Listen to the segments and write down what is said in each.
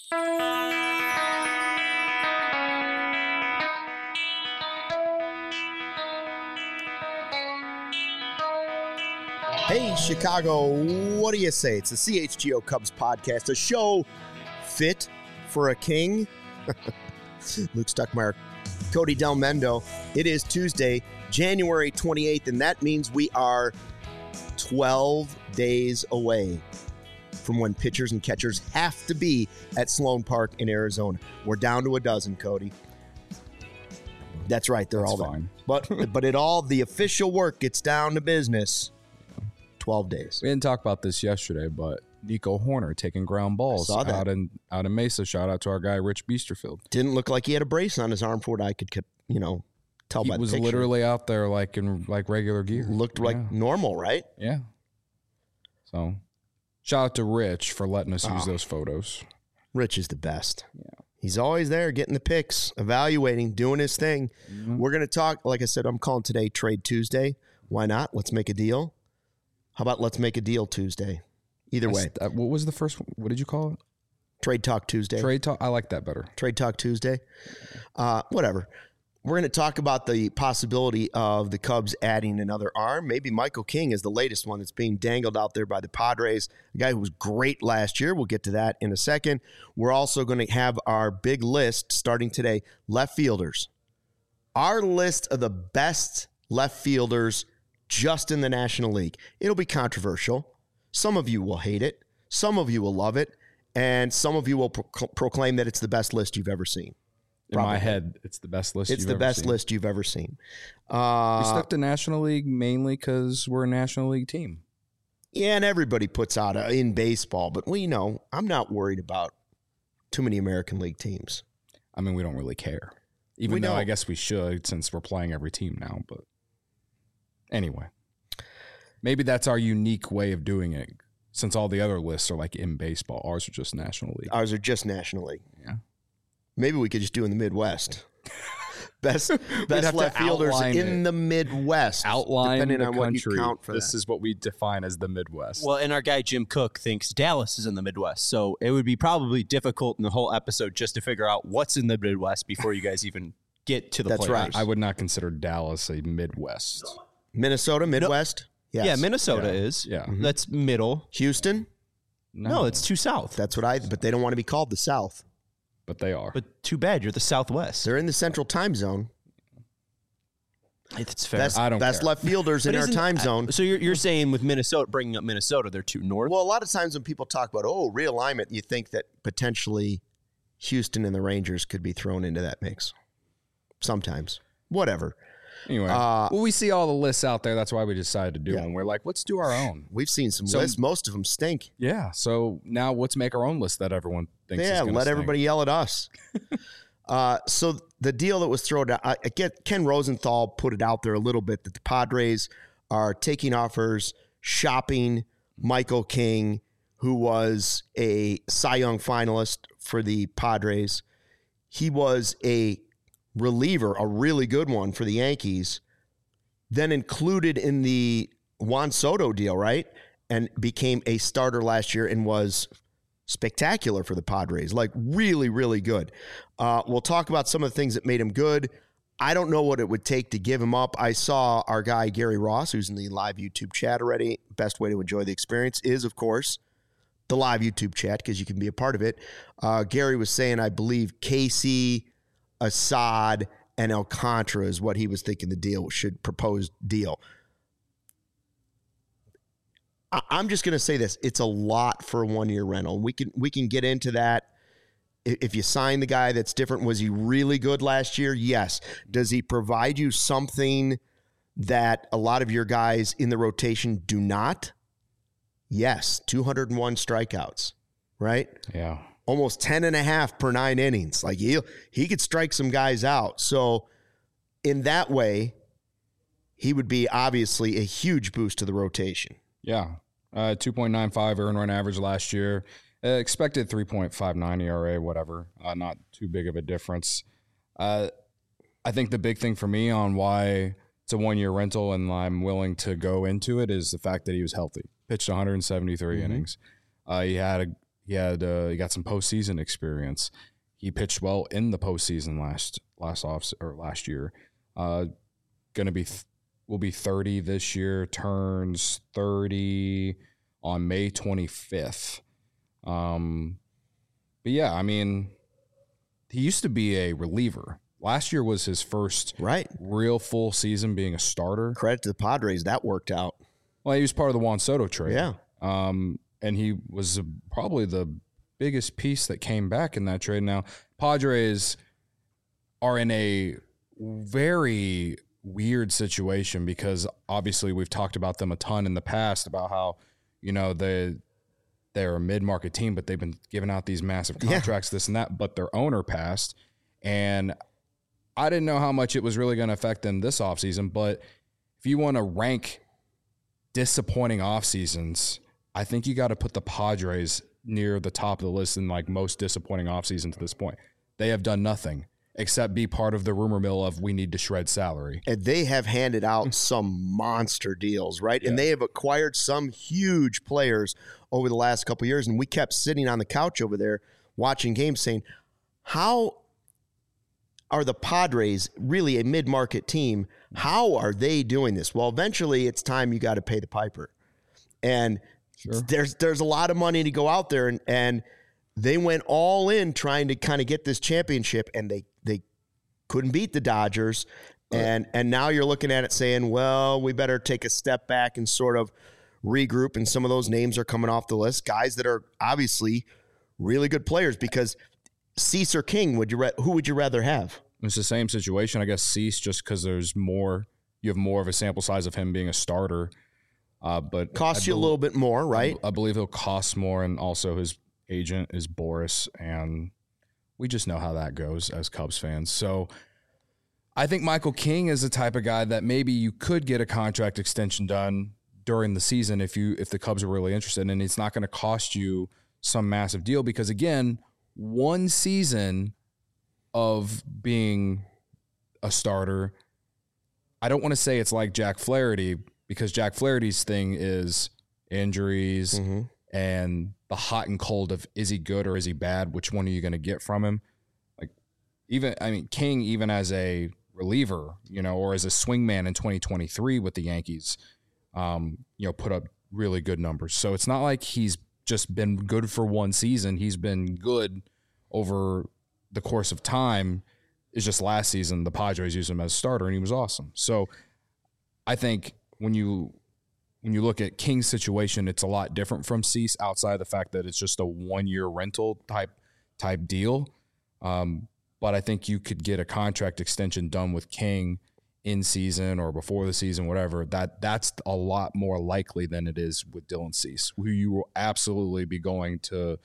Hey, Chicago, what do you say? It's the CHGO Cubs podcast, a show fit for a king. Luke Stuckmeyer, Cody Del Mendo. It is Tuesday, January 28th, and that means we are 12 days away from when pitchers and catchers have to be at Sloan Park in Arizona. We're down to a dozen, Cody. That's right, they're all fine. But the official work gets down to business. 12 days. We didn't talk about this yesterday, but Nico Horner taking ground balls out in Mesa. Shout out to our guy Rich Biesterfield. Didn't look like he had a brace on his arm for what I could tell by the picture. He was literally out there like in regular gear. Looked like normal, right? Yeah. So, shout out to Rich for letting us use those photos. Rich is the best. Yeah. He's always there getting the pics, evaluating, doing his thing. Mm-hmm. We're going to talk, like I said, I'm calling today Trade Tuesday. Why not? Let's make a deal. How about let's make a deal Tuesday? Either way. What was the first one? What did you call it? Trade Talk Tuesday. Trade Talk. I like that better. Trade Talk Tuesday. Whatever. We're going to talk about the possibility of the Cubs adding another arm. Maybe Michael King is the latest one that's being dangled out there by the Padres, a guy who was great last year. We'll get to that in a second. We're also going to have our big list starting today, left fielders. Our list of the best left fielders just in the National League. It'll be controversial. Some of you will hate it. Some of you will love it. And some of you will proclaim that it's the best list you've ever seen. Probably. In my head, it's the best list list you've ever seen. We stuck to National League mainly because we're a National League team. Yeah, and everybody puts out in baseball. But, I'm not worried about too many American League teams. I mean, we don't really care. Even though I guess we should since we're playing every team now, but... Anyway, maybe that's our unique way of doing it since all the other lists are like in baseball. Ours are just National League. Yeah. Maybe we could just do in the Midwest. best left fielders in the Midwest. Depending on what you count for this is what we define as the Midwest. Well, and our guy Jim Cook thinks Dallas is in the Midwest. So it would be probably difficult in the whole episode just to figure out what's in the Midwest before you guys even get to the That's players. right. I would not consider Dallas a Midwest. Minnesota, Midwest? No. Yes. Yeah, Minnesota is. Yeah. Mm-hmm. That's middle. Houston? No, it's too south. That's but they don't want to be called the South. But they are. But too bad, you're the Southwest. They're in the Central Time Zone. It's fair. I don't best care. left fielders in our time zone. So you're saying with Minnesota, bringing up Minnesota, they're too north? Well, a lot of times when people talk about, realignment, you think that potentially Houston and the Rangers could be thrown into that mix. Sometimes. Whatever. Anyway, we see all the lists out there. That's why we decided to do one. We're like, let's do our own. We've seen some lists. Most of them stink. Yeah. So now let's make our own list that everyone thinks is going to let everybody yell at us. So the deal that was thrown out, Ken Rosenthal put it out there a little bit that the Padres are taking offers, shopping Michael King, who was a Cy Young finalist for the Padres. He was a reliever, a really good one for the Yankees, then included in the Juan Soto deal, right? And became a starter last year and was spectacular for the Padres, like really, really good. We'll talk about some of the things that made him good. I don't know what it would take to give him up. I saw our guy, Gary Ross, who's in the live YouTube chat already. Best way to enjoy the experience is, of course, the live YouTube chat because you can be a part of it. Gary was saying, I believe, Casey, Assad, and Alcantara is what he was thinking the deal proposed deal. I'm just going to say this. It's a lot for a one-year rental. We can get into that. If you sign the guy that's different, was he really good last year? Yes. Does he provide you something that a lot of your guys in the rotation do not? Yes. 201 strikeouts, right? Yeah. Almost 10.5 per 9 innings. Like he could strike some guys out. So in that way, he would be obviously a huge boost to the rotation. Yeah. 2.95 earned run average last year. Expected 3.59 ERA, whatever. Not too big of a difference. I think the big thing for me on why it's a one-year rental and I'm willing to go into it is the fact that he was healthy. Pitched 173 innings. he got some postseason experience. He pitched well in the postseason last year. Will be 30 this year. Turns 30 on May 25th. But yeah, I mean, he used to be a reliever. Last year was his first real full season being a starter. Credit to the Padres, that worked out. Well, he was part of the Juan Soto trade. Yeah. And he was probably the biggest piece that came back in that trade. Now, Padres are in a very weird situation because obviously we've talked about them a ton in the past about how, they're a mid-market team, but they've been giving out these massive contracts, this and that, but their owner passed. And I didn't know how much it was really going to affect them this offseason, but if you want to rank disappointing off seasons, I think you got to put the Padres near the top of the list in like most disappointing off season to this point. They have done nothing except be part of the rumor mill of we need to shred salary. And they have handed out some monster deals, right? Yeah. And they have acquired some huge players over the last couple of years. And we kept sitting on the couch over there watching games saying, how are the Padres, really a mid-market team, how are they doing this? Well, eventually it's time you got to pay the piper. And there's a lot of money to go out there, and they went all in trying to kind of get this championship, and they couldn't beat the Dodgers. And now you're looking at it saying, well, we better take a step back and sort of regroup, and some of those names are coming off the list, guys that are obviously really good players, because Cease or King, who would you rather have? It's the same situation, I guess. Cease, just because you have more of a sample size of him being a starter. But costs you a little bit more, right? I believe he'll cost more, and also his agent is Boris, and we just know how that goes as Cubs fans. So I think Michael King is the type of guy that maybe you could get a contract extension done during the season if the Cubs are really interested, and it's not going to cost you some massive deal, because again, one season of being a starter, I don't want to say it's like Jack Flaherty, because Jack Flaherty's thing is injuries and the hot and cold of, is he good or is he bad? Which one are you going to get from him? King, even as a reliever, or as a swingman in 2023 with the Yankees, put up really good numbers. So it's not like he's just been good for one season. He's been good over the course of time. It's just last season the Padres used him as a starter and he was awesome. So I think when you look at King's situation, it's a lot different from Cease, outside of the fact that it's just a 1-year rental type deal. But I think you could get a contract extension done with King in season or before the season, whatever. That's a lot more likely than it is with Dylan Cease, who you will absolutely be going to,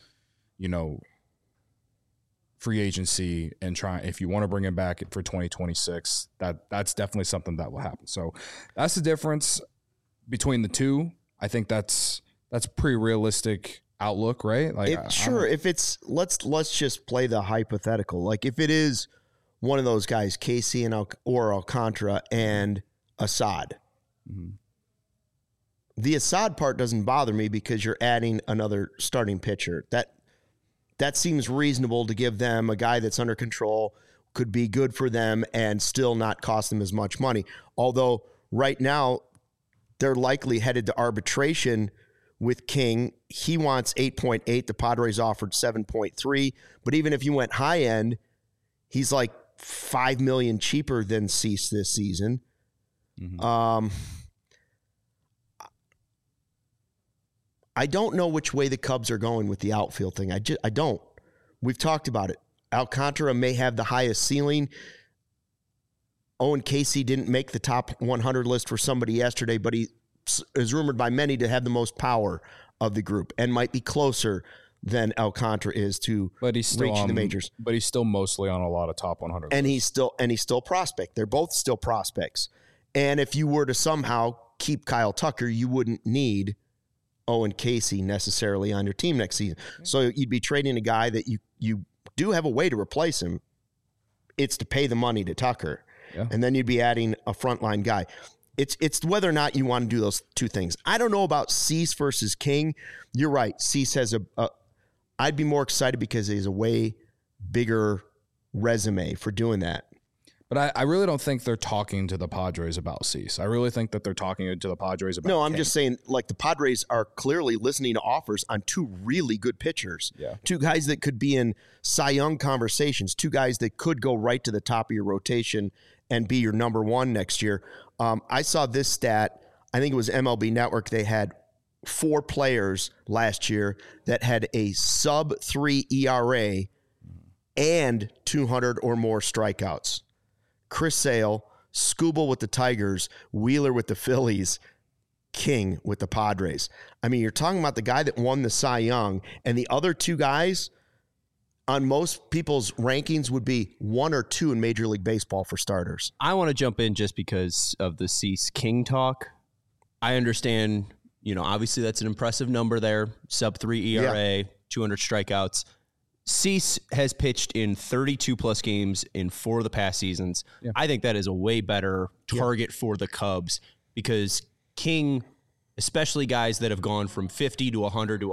free agency and try, if you want to bring him back for 2026, that's definitely something that will happen. So that's the difference between the two. I think that's pretty realistic outlook, right? If it's let's just play the hypothetical. Like if it is one of those guys, Casey or Alcantara and Assad, the Assad part doesn't bother me because you're adding another starting pitcher. That seems reasonable to give them a guy that's under control, could be good for them and still not cost them as much money. Although right now they're likely headed to arbitration with King. He wants 8.8. The Padres offered 7.3. But even if you went high end, he's like $5 million cheaper than Cease this season. I don't know which way the Cubs are going with the outfield thing. I don't. We've talked about it. Alcantara may have the highest ceiling. Owen Casey didn't make the top 100 list for somebody yesterday, but he is rumored by many to have the most power of the group and might be closer than Alcantara is to reaching the majors. But he's still mostly on a lot of top 100 and lists. he's still prospect. They're both still prospects. And if you were to somehow keep Kyle Tucker, you wouldn't need Owen Casey necessarily on your team next season. So you'd be trading a guy that you do have a way to replace him. It's to pay the money to Tucker. Yeah. And then you'd be adding a frontline guy. It's whether or not you want to do those two things. I don't know about Cease versus King. You're right. Cease has I'd be more excited because he has a way bigger resume for doing that. But I really don't think they're talking to the Padres about Cease. I really think that they're talking to the Padres about No, I'm King. just saying, like, the Padres are clearly listening to offers on two really good pitchers. Yeah. Two guys that could be in Cy Young conversations, two guys that could go right to the top of your rotation and be your number one next year. I saw this stat. I think it was MLB Network. They had 4 players last year that had a sub-3 ERA and 200 or more strikeouts. Chris Sale, Skubal with the Tigers, Wheeler with the Phillies, King with the Padres. I mean, you're talking about the guy that won the Cy Young, and the other 2 guys on most people's rankings would be 1 or 2 in Major League Baseball for starters. I want to jump in just because of the Cease King talk. I understand, obviously that's an impressive number there, sub-3 ERA, 200 strikeouts. Cease has pitched in 32-plus games in 4 of the past seasons. Yeah. I think that is a way better target for the Cubs because King, especially guys that have gone from 50 to 100 to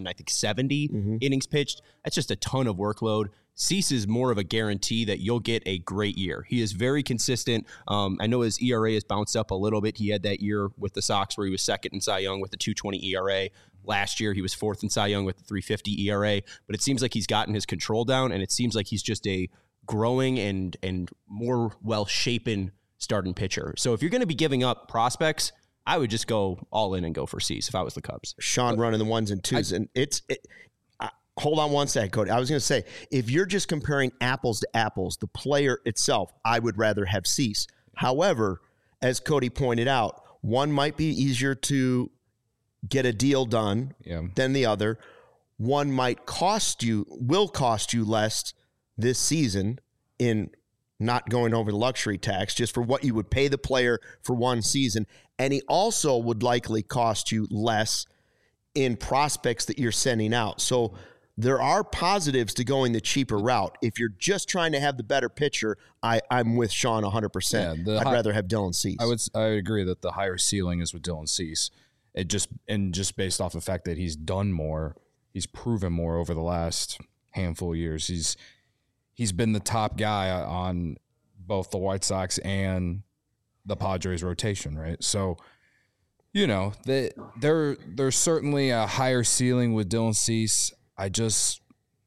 170 innings pitched, that's just a ton of workload. Cease is more of a guarantee that you'll get a great year. He is very consistent. I know his ERA has bounced up a little bit. He had that year with the Sox where he was second in Cy Young with the 2.20 ERA. Last year, he was 4th in Cy Young with the 3.50 ERA. But it seems like he's gotten his control down, and it seems like he's just a growing and more well-shapen starting pitcher. So if you're going to be giving up prospects, I would just go all in and go for Cease if I was the Cubs. Sean running the 1s and 2s. Hold on one second, Cody. I was going to say, if you're just comparing apples to apples, the player itself, I would rather have Cease. However, as Cody pointed out, one might be easier to get a deal done than the other. One will cost you less this season in not going over the luxury tax just for what you would pay the player for one season. And he also would likely cost you less in prospects that you're sending out. So there are positives to going the cheaper route. If you're just trying to have the better pitcher, I'm with Sean 100%. I'd rather have Dylan Cease. I would agree that the higher ceiling is with Dylan Cease. Just based off the fact that he's done more, he's proven more over the last handful of years. He's been the top guy on both the White Sox and the Padres rotation, right? So, there's certainly a higher ceiling with Dylan Cease. I just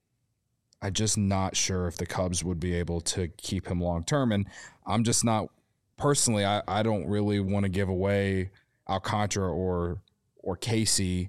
not sure if the Cubs would be able to keep him long term, and I'm just not personally. I don't really want to give away Alcantara or Casey,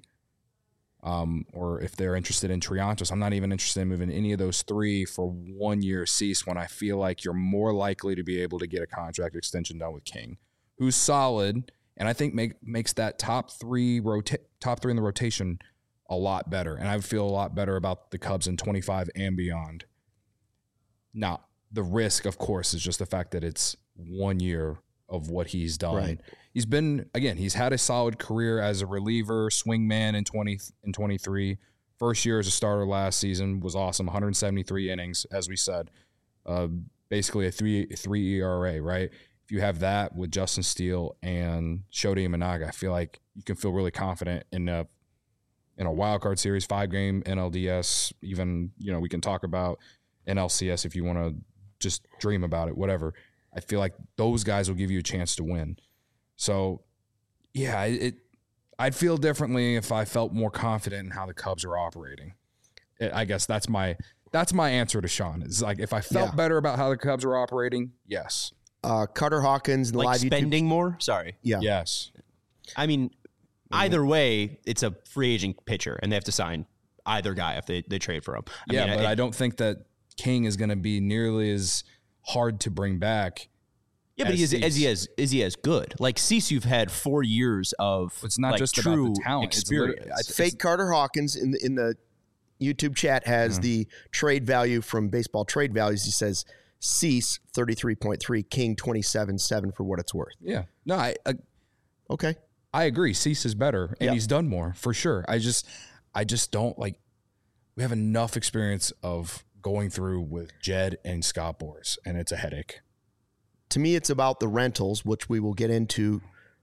or if they're interested in Triantos. I'm not even interested in moving any of those 3 for 1 year Cease when I feel like you're more likely to be able to get a contract extension done with King, who's solid, and I think makes that top 3 in the rotation a lot better. And I feel a lot better about the Cubs in 25 and beyond. Now, the risk, of course, is just the fact that it's 1 year of what he's done. Right. He's had a solid career as a reliever, swingman in 23. First year as a starter last season was awesome, 173 innings, as we said. Basically a 3 ERA, right? If you have that with Justin Steele and Shota Imanaga, I feel like you can feel really confident in a wild card series, 5-game NLDS, even, we can talk about NLCS if you want to just dream about it, whatever. I feel like those guys will give you a chance to win. So, yeah, I'd feel differently if I felt more confident in how the Cubs are operating. I guess that's my answer to Sean. It's like if I felt better about how the Cubs are operating, yes. Carter Hawkins, the live spending more? Sorry. Yeah. Yes. I mean, either way, it's a free agent pitcher, and they have to sign either guy if they trade for him. I don't think that King is going to be nearly as hard to bring back. Yeah, but is he as good? Like Cease, you've had 4 years of it's not just true about the talent experience. It's fake Carter Hawkins in the YouTube chat has the trade value from Baseball Trade Values. He says Cease 33.3, King 27.7 for what it's worth. Yeah, no, okay. I agree. Cease is better, and he's done more for sure. I just don't like. We have enough experience of going through with Jed and Scott Boras, and it's a headache. To me, it's about the rentals, which we will get into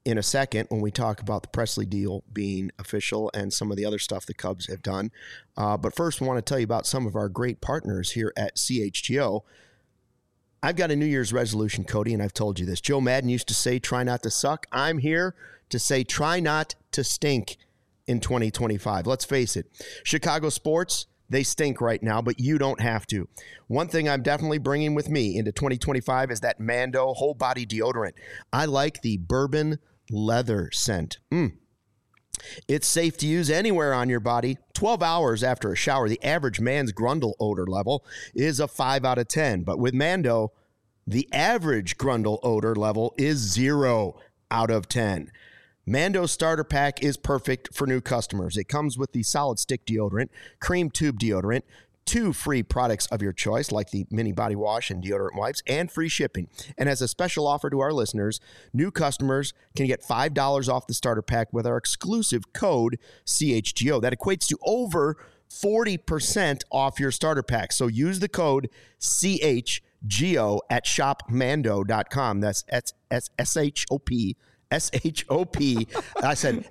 in a second when we talk about the Presley deal being official and some of the other stuff the Cubs have done. But first, I want to tell you about some of our great partners here at CHGO. I've got a New Year's resolution, Cody, and I've told you this. Joe Madden used to say, try not to suck. I'm here to say, try not to stink in 2025. Let's face it. Chicago sports, they stink right now, but you don't have to. One thing I'm definitely bringing with me into 2025 is that Mando whole body deodorant. I like the bourbon leather scent. It's safe to use anywhere on your body. 12 hours after a shower, the average man's Grundle odor level is a 5 out of 10. But with Mando, the average Grundle odor level is 0 out of 10. Mando starter pack is perfect for new customers. It comes with the solid stick deodorant, cream tube deodorant, 2 free products of your choice, like the mini body wash and deodorant wipes, and free shipping. And as a special offer to our listeners, new customers can get $5 off the starter pack with our exclusive code CHGO. That equates to over 40% off your starter pack. So use the code CHGO at shopmando.com. That's SHOP. SHOP. I said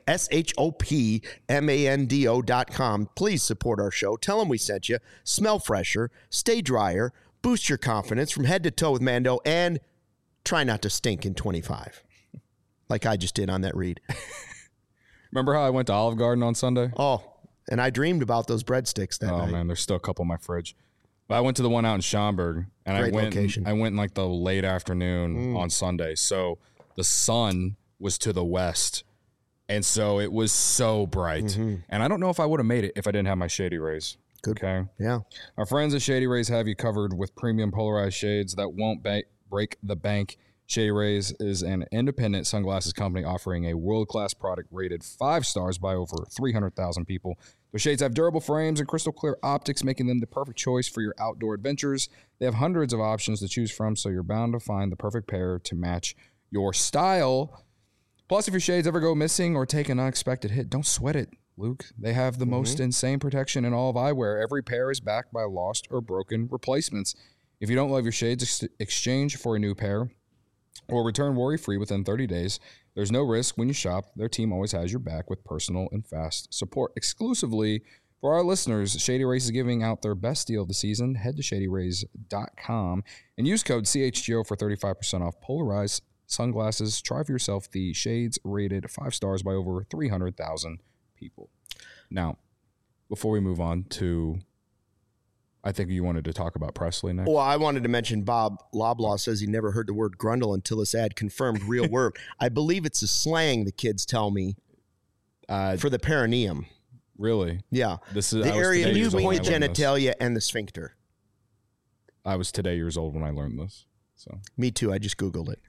SHOPMANDO.com. Please support our show. Tell them we sent you. Smell fresher, stay drier, boost your confidence from head to toe with Mando, and try not to stink in 25. Like I just did on that read. Remember how I went to Olive Garden on Sunday? Oh, and I dreamed about those breadsticks that night. Oh, man, there's still a couple in my fridge. But I went to the one out in Schaumburg, and Great I location. went in like the late afternoon on Sunday. So the sun was to the west, and so it was so bright. And I don't know if I would have made it if I didn't have my Shady Rays. Good. Okay. Yeah. Our friends at Shady Rays have you covered with premium polarized shades that won't break the bank. Shady Rays is an independent sunglasses company offering a world-class product rated 5 stars by over 300,000 people. Their shades have durable frames and crystal clear optics, making them the perfect choice for your outdoor adventures. They have hundreds of options to choose from, so you're bound to find the perfect pair to match your style. Plus, if your shades ever go missing or take an unexpected hit, don't sweat it, Luke. They have the most insane protection in all of eyewear. Every pair is backed by lost or broken replacements. If you don't love your shades, exchange for a new pair or return worry-free within 30 days. There's no risk when you shop. Their team always has your back with personal and fast support. Exclusively for our listeners, Shady Rays is giving out their best deal of the season. Head to shadyrays.com and use code CHGO for 35% off polarized sunglasses. Try for yourself the shades rated 5 stars by over 300,000 people. Now, before we move on to, I think you wanted to talk about Presley next. Well, I wanted to mention Bob Loblaw says he never heard the word grundle until this ad confirmed real word. I believe it's a slang the kids tell me for the perineum. Really? Yeah. This is the area between the genitalia genitalia and the sphincter. I was today years old when I learned this. So me too. I just Googled it.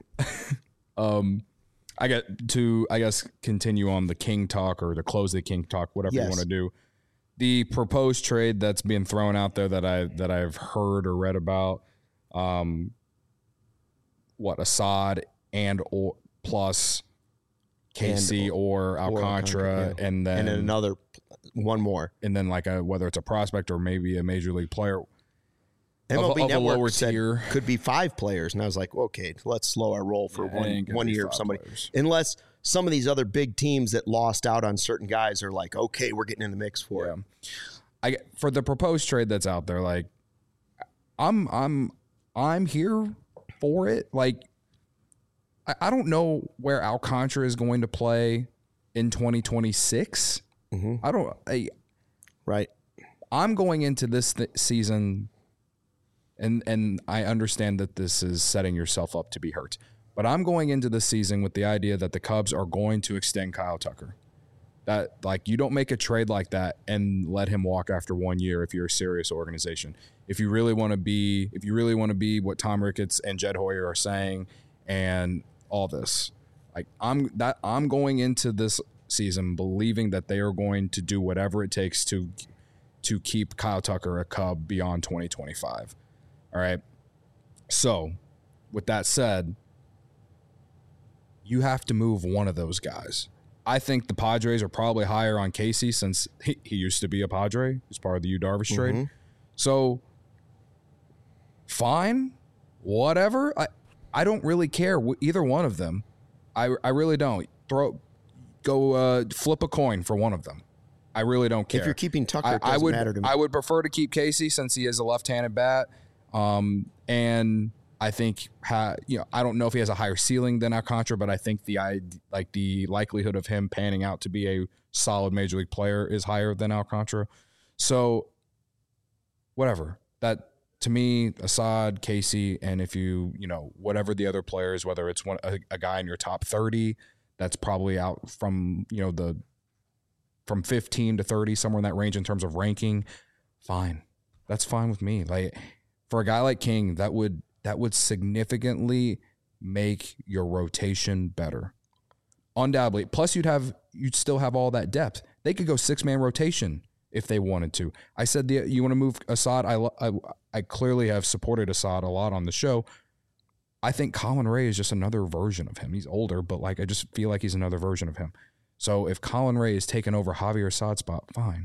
I got to, I guess, continue on the King talk or to close the King talk, whatever you want to do. The proposed trade that's being thrown out there that I've heard or read about, Assad and or plus KC or Alcantara, and then another one more, and then like whether it's a prospect or maybe a major league player. MLB of Network lower said tier. Could be 5 players, and I was like, okay, let's slow our roll for one year of somebody. Players. Unless some of these other big teams that lost out on certain guys are like, okay, we're getting in the mix for it. For the proposed trade that's out there, like I'm here for it. Like I don't know where Alcantara is going to play in 2026. Right. I'm going into this season. And I understand that this is setting yourself up to be hurt. But I'm going into this season with the idea that the Cubs are going to extend Kyle Tucker. That, like, you don't make a trade like that and let him walk after 1 year if you're a serious organization. If you really want to be what Tom Ricketts and Jed Hoyer are saying and all this. Like I'm going into this season believing that they are going to do whatever it takes to keep Kyle Tucker a Cub beyond 2025. All right. So, with that said, you have to move one of those guys. I think the Padres are probably higher on Casey since he used to be a Padre. He's part of the Yu Darvish trade. So, fine, whatever. I don't really care either one of them. I really don't. flip a coin for one of them. I really don't care. If you're keeping Tucker, it doesn't matter to me. I would prefer to keep Casey since he is a left-handed bat. And I think, I don't know if he has a higher ceiling than Alcantara, but I think the likelihood of him panning out to be a solid major league player is higher than Alcantara. So, whatever. That, to me, Assad, Casey, and if whatever the other players, whether it's a guy in your top 30, that's probably out from, from 15 to 30, somewhere in that range in terms of ranking, fine. That's fine with me. Like, for a guy like King, that would significantly make your rotation better. Undoubtedly. Plus, you'd still have all that depth. They could go 6-man rotation if they wanted to. I said, you want to move Assad? I clearly have supported Assad a lot on the show. I think Colin Ray is just another version of him. He's older, but I just feel like he's another version of him. So if Colin Ray is taking over Javier Assad's spot, fine.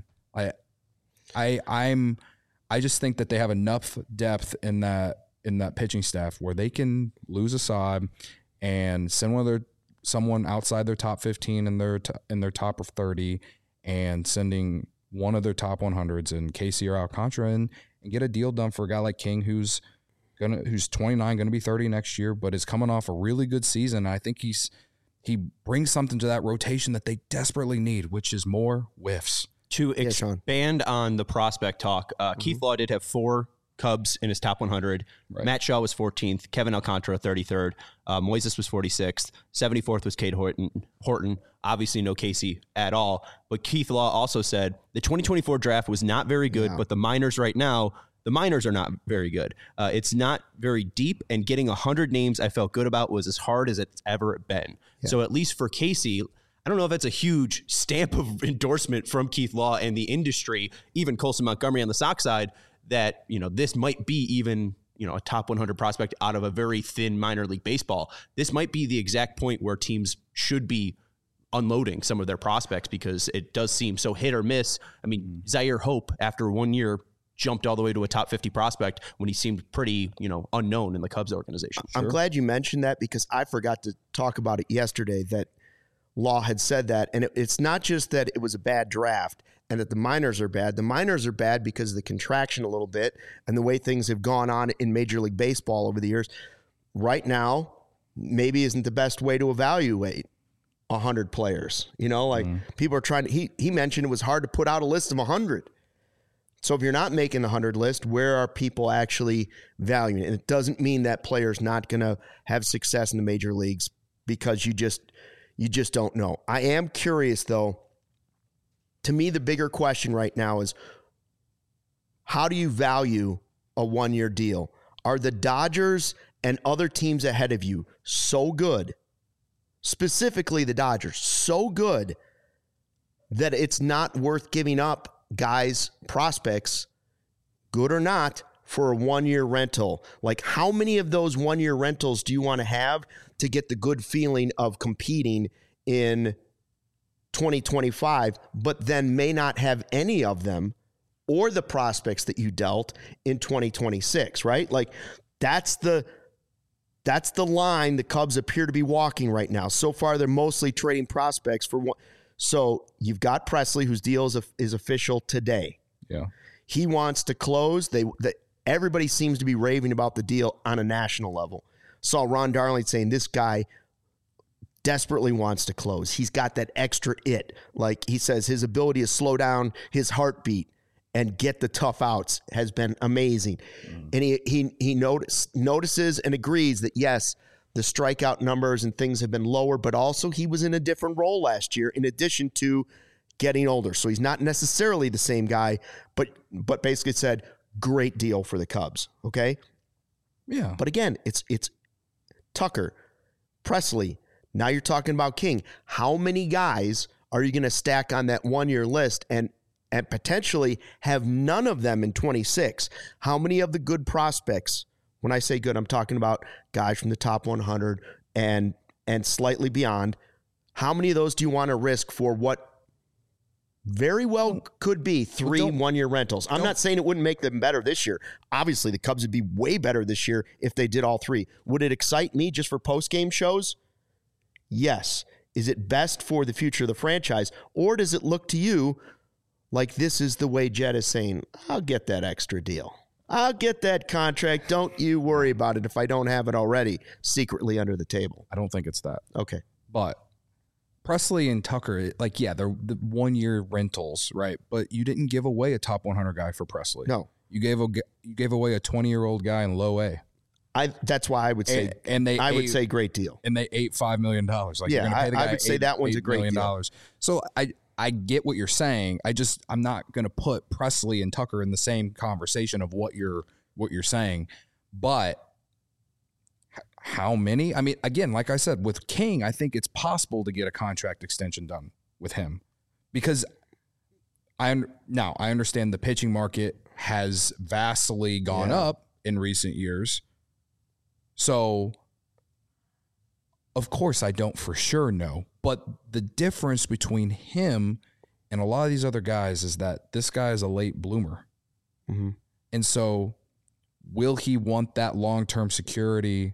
I just think that they have enough depth in that pitching staff where they can lose Assad and send someone outside their top 15 in their top 30 and sending one of their top 100s in Casey or Alcantara and get a deal done for a guy like King who's 29, going to be 30 next year, but is coming off a really good season. I think he brings something to that rotation that they desperately need, which is more whiffs. To expand on the prospect talk, Keith Law did have 4 Cubs in his top 100. Right. Matt Shaw was 14th. Kevin Alcantara, 33rd. Moises was 46th. 74th was Cade Horton. Obviously no Casey at all. But Keith Law also said the 2024 draft was not very good, but the minors right now, the minors are not very good. It's not very deep, and getting 100 names I felt good about was as hard as it's ever been. Yeah. So at least for Casey, I don't know if that's a huge stamp of endorsement from Keith Law and the industry, even Colson Montgomery on the Sox side, that, this might be even, a top 100 prospect out of a very thin minor league baseball. This might be the exact point where teams should be unloading some of their prospects because it does seem so hit or miss. I mean, Zaire Hope, after 1 year, jumped all the way to a top 50 prospect when he seemed pretty, unknown in the Cubs organization. I'm glad you mentioned that because I forgot to talk about it yesterday, that Law had said that. And it's not just that it was a bad draft and that the minors are bad. The minors are bad because of the contraction a little bit and the way things have gone on in Major League Baseball over the years. Right now, maybe isn't the best way to evaluate 100 players. People are trying to, he mentioned it was hard to put out a list of 100. So if you're not making the 100 list, where are people actually valuing it? And it doesn't mean that player's not going to have success in the major leagues because you just don't know. I am curious, though. To me, the bigger question right now is, how do you value a 1-year deal? Are the Dodgers and other teams ahead of you so good, specifically the Dodgers, so good that it's not worth giving up guys, prospects, good or not, for a 1-year rental? Like, how many of those 1-year rentals do you want to have to get the good feeling of competing in 2025, but then may not have any of them or the prospects that you dealt in 2026, right? Like, that's the line the Cubs appear to be walking right now. So far, they're mostly trading prospects for one. So you've got Presley, whose deal is official today. Yeah, he wants to close. Everybody seems to be raving about the deal on a national level. Saw Ron Darling saying this guy desperately wants to close. He's got that extra it. Like he says, his ability to slow down his heartbeat and get the tough outs has been amazing. And he notices and agrees that, yes, the strikeout numbers and things have been lower, but also he was in a different role last year in addition to getting older. So he's not necessarily the same guy, but basically said, great deal for the Cubs. Okay. Yeah. But again, it's Tucker, Presley. Now you're talking about King. How many guys are you going to stack on that 1-year list and potentially have none of them in 26? How many of the good prospects, when I say good, I'm talking about guys from the top 100 and slightly beyond, how many of those do you want to risk for what very well could be 3 1-year rentals? I'm not saying it wouldn't make them better this year. Obviously, the Cubs would be way better this year if they did all 3. Would it excite me just for post-game shows? Yes. Is it best for the future of the franchise? Or does it look to you like this is the way Jed is saying, I'll get that extra deal. I'll get that contract. Don't you worry about it if I don't have it already secretly under the table. I don't think it's that. Okay. But Presley and Tucker, like, yeah, they're the 1 year rentals, right? But you didn't give away a top 100 guy for Presley. No. You gave away a 20-year-old guy in low A. That's why I would say I would say great deal. And they ate $5 million. Like, yeah, you're gonna pay the guy I would say that one's a great deal. So I get what you're saying. I'm not going to put Presley and Tucker in the same conversation of what you're saying. But how many? I mean, again, like I said, with King, I think it's possible to get a contract extension done with him because I understand the pitching market has vastly gone up in recent years. So, of course, I don't for sure know. But the difference between him and a lot of these other guys is that this guy is a late bloomer. Mm-hmm. And so will he want that long-term security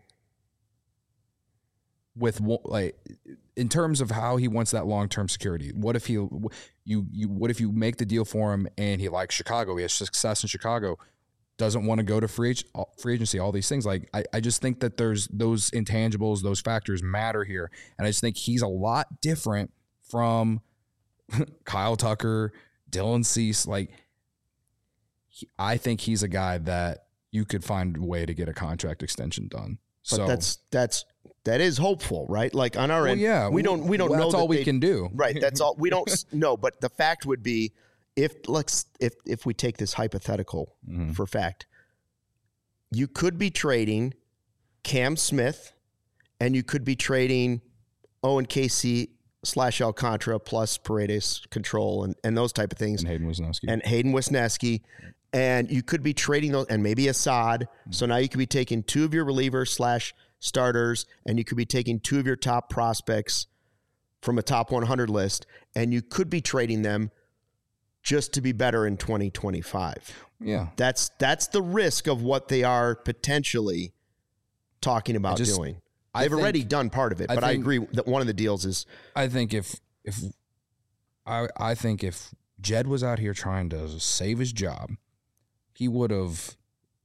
with, like, in terms of how he wants that long-term security? What if what if you make the deal for him and he likes Chicago, he has success in Chicago, doesn't want to go to free agency, all these things. Like, I just think that there's those intangibles, those factors matter here. And I just think he's a lot different from Kyle Tucker, Dylan Cease. Like, I think he's a guy that you could find a way to get a contract extension done. But so that is hopeful, right? Like, on our end, yeah, we don't know. That's all we can do. Right. That's all. We don't know. But the fact would be, if we take this hypothetical for fact, you could be trading Cam Smith and you could be trading Owen Casey / Alcantara plus Paredes control and those type of things. And Hayden Wesneski. And you could be trading those and maybe Assad. So now you could be taking two of your relievers / starters and you could be taking two of your top prospects from a top 100 list and you could be trading them just to be better in 2025. Yeah. That's the risk of what they are potentially talking about doing. They've already done part of it, but I agree that one of the deals is. I think if Jed was out here trying to save his job, he would have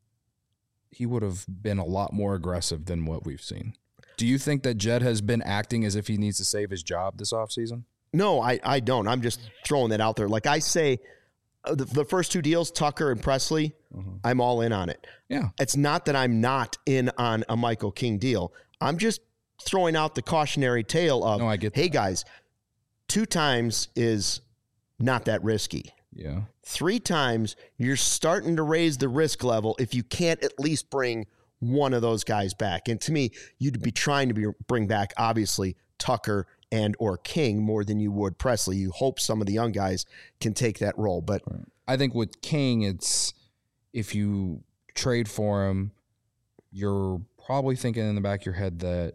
been a lot more aggressive than what we've seen. Do you think that Jed has been acting as if he needs to save his job this offseason? No, I don't. I'm just throwing that out there. Like I say, the first two deals, Tucker and Presley, I'm all in on it. Yeah. It's not that I'm not in on a Michael King deal. I'm just throwing out the cautionary tale of, hey, guys, 2 times is not that risky. Yeah. 3 times, you're starting to raise the risk level if you can't at least bring one of those guys back. And to me, you'd be trying to bring back, obviously, Tucker and or King more than you would Presley. You hope some of the young guys can take that role. But I think with King, it's if you trade for him, you're probably thinking in the back of your head that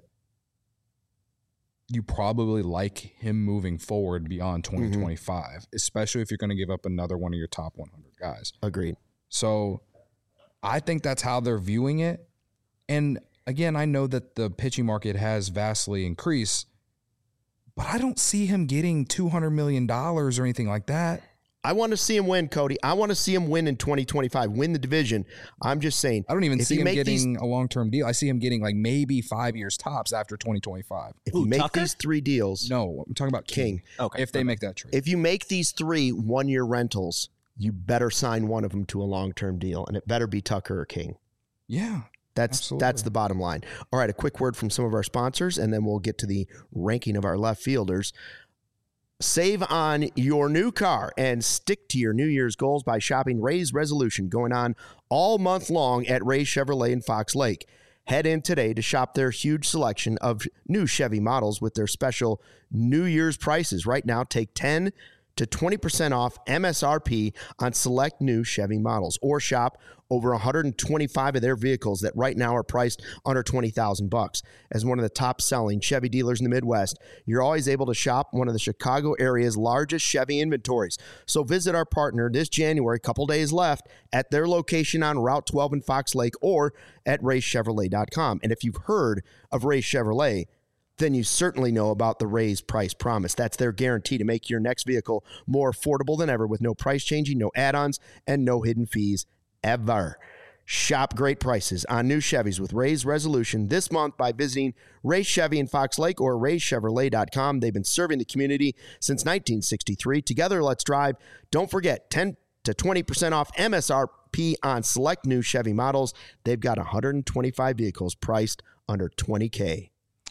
you probably like him moving forward beyond 2025, especially if you're going to give up another one of your top 100 guys. Agreed. So I think that's how they're viewing it. And again, I know that the pitching market has vastly increased, but I don't see him getting $200 million or anything like that. I want to see him win, Cody. I want to see him win in 2025, win the division. I'm just saying. I don't even see him getting a long-term deal. I see him getting like maybe 5 years tops after 2025. If you make these 3 deals. No, I'm talking about King. Okay. If they make that trade. If you make these 3 one-year rentals, you better sign one of them to a long-term deal, and it better be Tucker or King. Yeah. That's the bottom line. All right, a quick word from some of our sponsors, and then we'll get to the ranking of our left fielders. Save on your new car and stick to your New Year's goals by shopping Ray's Resolution, going on all month long at Ray Chevrolet in Fox Lake. Head in today to shop their huge selection of new Chevy models with their special New Year's prices. Right now, take 10 to 20% off MSRP on select new Chevy models, or shop over 125 of their vehicles that right now are priced under $20,000. As one of the top selling Chevy dealers in the Midwest, you're always able to shop one of the Chicago area's largest Chevy inventories. So visit our partner this January, couple days left, at their location on Route 12 in Fox Lake or at raychevrolet.com. And if you've heard of Ray Chevrolet, then you certainly know about the Ray's Price Promise. That's their guarantee to make your next vehicle more affordable than ever with no price changing, no add-ons, and no hidden fees ever. Shop great prices on new Chevys with Ray's Resolution this month by visiting Ray Chevy in Fox Lake or raychevrolet.com. They've been serving the community since 1963. Together, let's drive. Don't forget, 10 to 20% off MSRP on select new Chevy models. They've got 125 vehicles priced under $20K.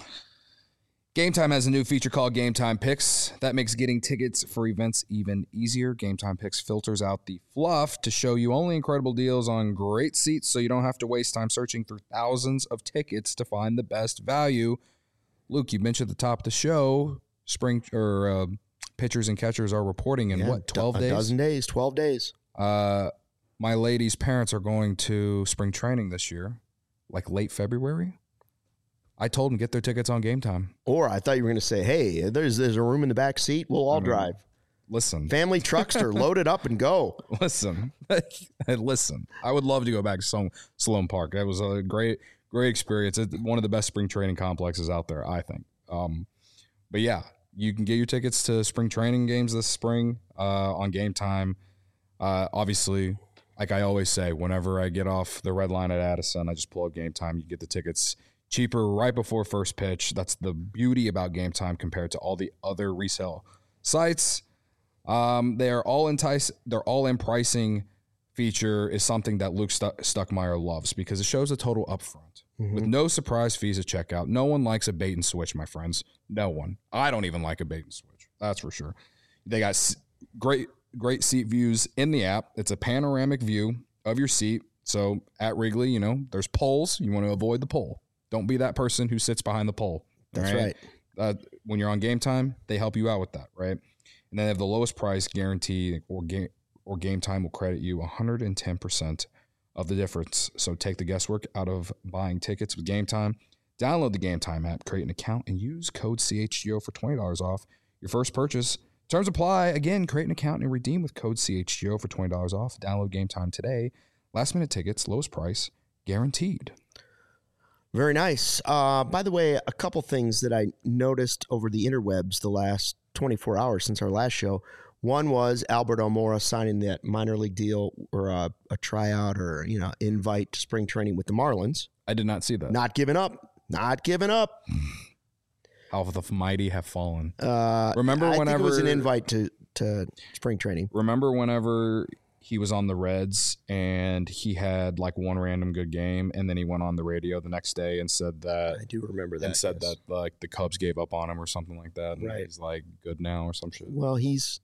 Game Time has a new feature called Game Time Picks. That makes getting tickets for events even easier. Game Time Picks filters out the fluff to show you only incredible deals on great seats so you don't have to waste time searching through thousands of tickets to find the best value. Luke, you mentioned at the top of the show, pitchers and catchers are reporting in 12 days? A dozen days, 12 days. My lady's parents are going to spring training this year, like late February. I told them get their tickets on Game Time. Or I thought you were going to say, hey, there's a room in the back seat. We'll all drive. Listen. Family truckster, load it up and go. Listen. Listen. I would love to go back to Sloan Park. That was a great experience. It's one of the best spring training complexes out there, I think. But yeah, you can get your tickets to spring training games this spring on Game Time. Obviously, like I always say, whenever I get off the red line at Addison, I just pull up Game Time. You get the tickets cheaper right before first pitch. That's the beauty about Game Time compared to all the other resale sites. They're all in pricing feature is something that Luke Stuckmeyer loves because it shows the total upfront with no surprise fees at checkout. No one likes a bait and switch, my friends. No one. I don't even like a bait and switch. That's for sure. They got great seat views in the app. It's a panoramic view of your seat. So at Wrigley, there's poles. You want to avoid the pole. Don't be that person who sits behind the pole. That's right. When you're on Game Time, they help you out with that, right? And then they have the lowest price guarantee, or Game Time will credit you 110% of the difference. So take the guesswork out of buying tickets with Game Time. Download the Game Time app, create an account, and use code CHGO for $20 off your first purchase. Terms apply. Again, create an account and redeem with code CHGO for $20 off. Download Game Time today. Last minute tickets, lowest price, guaranteed. Very nice. By the way, a couple things that I noticed over the interwebs the last 24 hours since our last show. One was Albert Almora signing that minor league deal or a tryout or invite to spring training with the Marlins. I did not see that. Not giving up. How the mighty have fallen. Remember whenever think it was an invite to spring training. Remember whenever he was on the Reds and he had like one random good game, and then he went on the radio the next day and said that I do remember that. And said that like the Cubs gave up on him or something like that. And right. He's like good now or some shit. Well, he's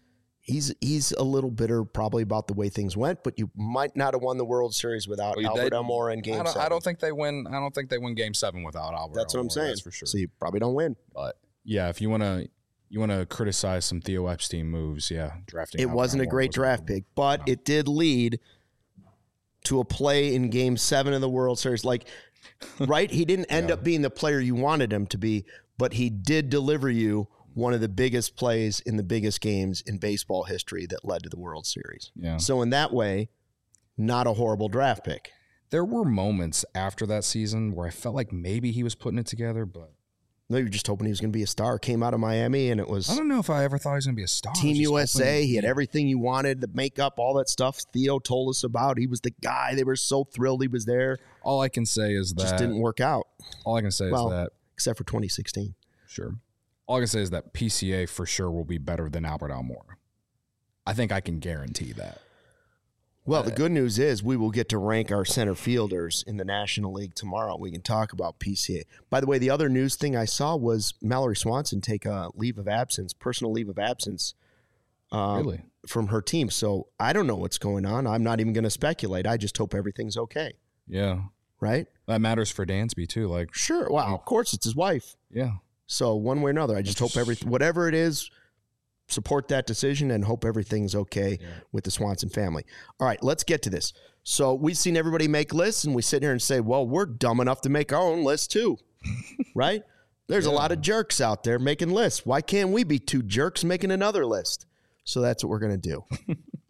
a little bitter probably about the way things went, but you might not have won the World Series without Albert Almora in Game 7. I don't think they win. I don't think they win Game 7 without Albert. That's what I'm saying. That's for sure. So you probably don't win. But yeah, if you want to criticize some Theo Epstein moves, drafting. It wasn't a great draft pick, but it did lead to a play in Game 7 of the World Series. Like, right? He didn't end up being the player you wanted him to be, but he did deliver you one of the biggest plays in the biggest games in baseball history that led to the World Series. Yeah. So in that way, not a horrible draft pick. There were moments after that season where I felt like maybe he was putting it together, but no, you're just hoping he was going to be a star. Came out of Miami, and it was... I don't know if I ever thought he was going to be a star. Team USA, he had everything you wanted, the makeup, all that stuff Theo told us about. He was the guy. They were so thrilled he was there. All I can say is that... Just didn't work out. All I can say is that... Except for 2016. Sure. All I can say is that PCA for sure will be better than Albert Almora. I think I can guarantee that. Well, the good news is we will get to rank our center fielders in the National League tomorrow. We can talk about PCA. By the way, the other news thing I saw was Mallory Swanson take a personal leave of absence really? From her team. So I don't know what's going on. I'm not even going to speculate. I just hope everything's okay. Yeah. Right? That matters for Dansby, too. Like, sure. Wow. Of course, it's his wife. Yeah. So one way or another, I just hope whatever it is, support that decision and hope everything's okay with the Swanson family. All right, let's get to this. So we've seen everybody make lists, and we sit here and say, well, we're dumb enough to make our own list too, right? There's a lot of jerks out there making lists. Why can't we be two jerks making another list? So that's what we're going to do.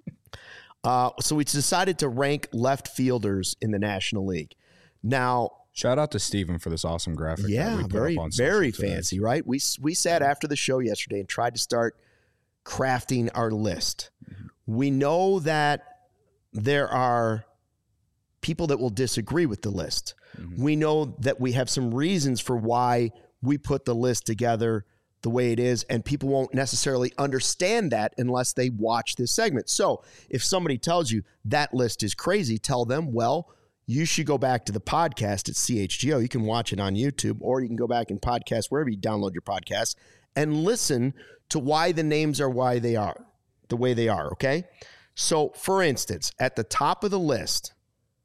So we decided to rank left fielders in the National League. Now, Shout out to Steven for this awesome graphic. Yeah, very fancy, right? We sat after the show yesterday and tried to start crafting our list. We know that there are people that will disagree with the list. We know that we have some reasons for why we put the list together the way it is, and people won't necessarily understand that unless they watch this segment. So if somebody tells you that list is crazy, tell them, well, you should go back to the podcast at CHGO. You can watch it on YouTube, or you can go back and podcast wherever you download your podcasts and listen to why the names are why they are the way they are, okay? So, for instance, at the top of the list,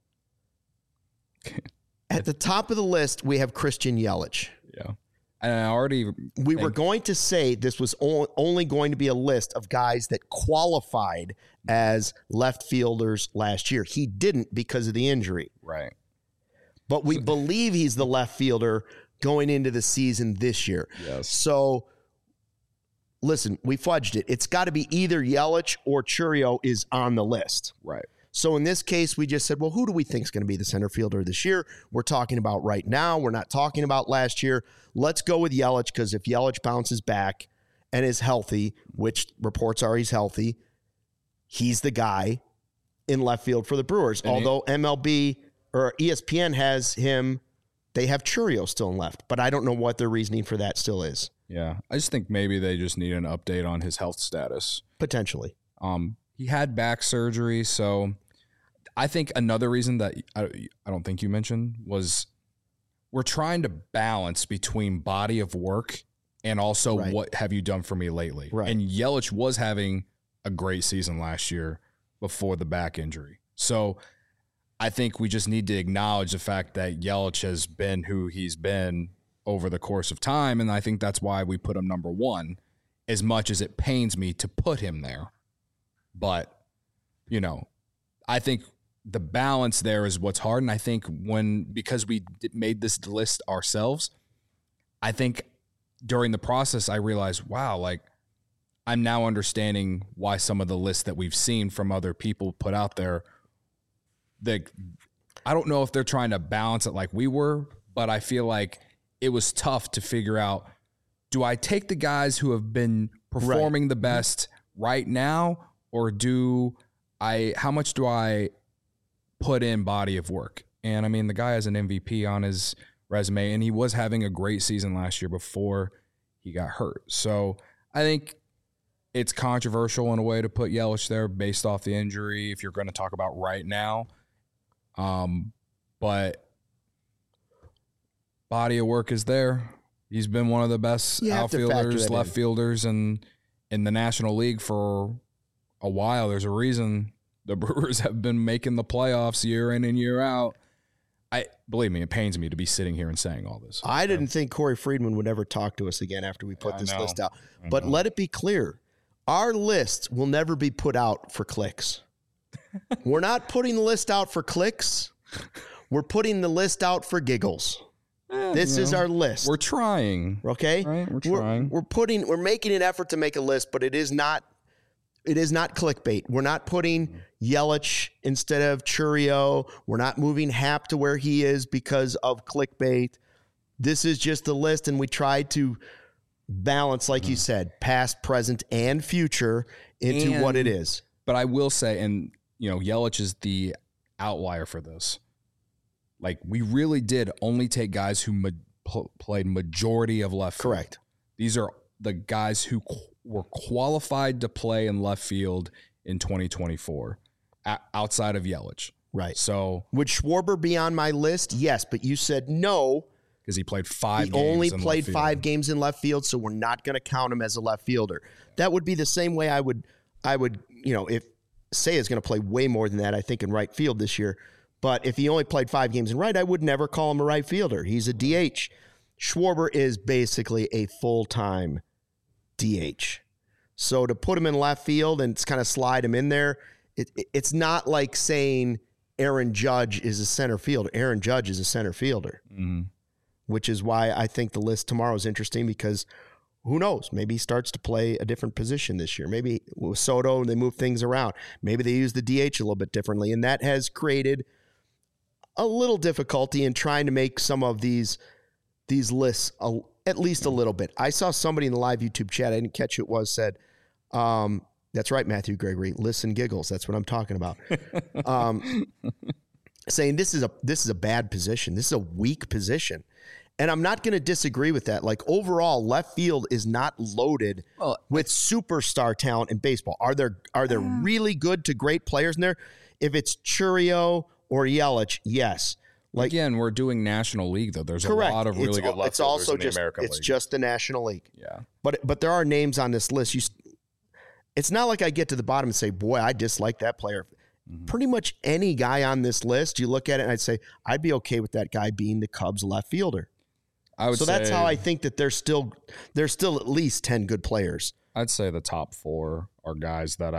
we have Christian Yelich. Yeah. And we were going to say this was only going to be a list of guys that qualified as left fielders last year. He didn't because of the injury. Right. But we believe he's the left fielder going into the season this year. Yes. So, listen, we fudged it. It's got to be either Yelich or Chourio is on the list. Right. So in this case, we just said, well, who do we think is going to be the center fielder this year? We're talking about right now. We're not talking about last year. Let's go with Yelich, because if Yelich bounces back and is healthy, which reports are he's healthy, he's the guy in left field for the Brewers. And although MLB or ESPN has him, they have Chourio still in left. But I don't know what their reasoning for that still is. Yeah, I just think maybe they just need an update on his health status. Potentially. He had back surgery, so I think another reason that I don't think you mentioned was we're trying to balance between body of work and also what have you done for me lately. Right. And Yelich was having a great season last year before the back injury. So I think we just need to acknowledge the fact that Yelich has been who he's been over the course of time, and I think that's why we put him number one, as much as it pains me to put him there. But, I think the balance there is what's hard. And I think because we made this list ourselves, I think during the process, I realized, wow, I'm now understanding why some of the lists that we've seen from other people put out there, I don't know if they're trying to balance it like we were, but I feel like it was tough to figure out, do I take the guys who have been performing the best right now, or how much do I put in body of work? And I mean, the guy has an MVP on his resume, and he was having a great season last year before he got hurt. So I think it's controversial in a way to put Yelich there based off the injury, if you're going to talk about right now. But body of work is there. He's been one of the best outfielders, left fielders in the National League for a while. There's a reason the Brewers have been making the playoffs year in and year out. Believe me, it pains me to be sitting here and saying all this. I didn't think Corey Friedman would ever talk to us again after we put this list out. But let it be clear, our list will never be put out for clicks. We're not putting the list out for clicks. We're putting the list out for giggles. This is our list. We're trying. Okay? Right? We're trying. We're making an effort to make a list, but it is not clickbait. We're not putting Yelich instead of Chourio. We're not moving Happ to where he is because of clickbait. This is just the list, and we try to balance, like you said, past, present, and future into what it is. But I will say, and Yelich is the outlier for this. We really did only take guys who played majority of left field. Correct. These are the guys who were qualified to play in left field in 2024 outside of Yelich. Right. So would Schwarber be on my list? Yes, but you said no. Because he played 5 games. He only played 5 games in left field, so we're not going to count him as a left fielder. That would be the same way I would, if Seiya is going to play way more than that, I think, in right field this year. But if he only played 5 games in right, I would never call him a right fielder. He's a DH. Schwarber is basically a full-time DH. So to put him in left field and kind of slide him in there, it's not like saying Aaron Judge is a center fielder. Aaron Judge is a center fielder, which is why I think the list tomorrow is interesting, because who knows? Maybe he starts to play a different position this year. Maybe with Soto, they move things around. Maybe they use the DH a little bit differently, and that has created a little difficulty in trying to make some of these lists at least a little bit. I saw somebody in the live YouTube chat, I didn't catch who it was, said, that's right, Matthew Gregory, listen giggles. That's what I'm talking about. Saying this is a bad position. This is a weak position. And I'm not going to disagree with that. Like, overall, left field is not loaded with superstar talent in baseball. Are there really good to great players in there? If it's Chourio or Yelich, yes. Like, again, we're doing National League, though. There's correct. A lot of really good left fielders in the American League. It's just the National League. Yeah. But there are names on this list. It's not like I get to the bottom and say, boy, I dislike that player. Mm-hmm. Pretty much any guy on this list, you look at it and I'd say, I'd be okay with that guy being the Cubs left fielder. So that's how I think that there's still at least 10 good players. I'd say the top 4 are guys that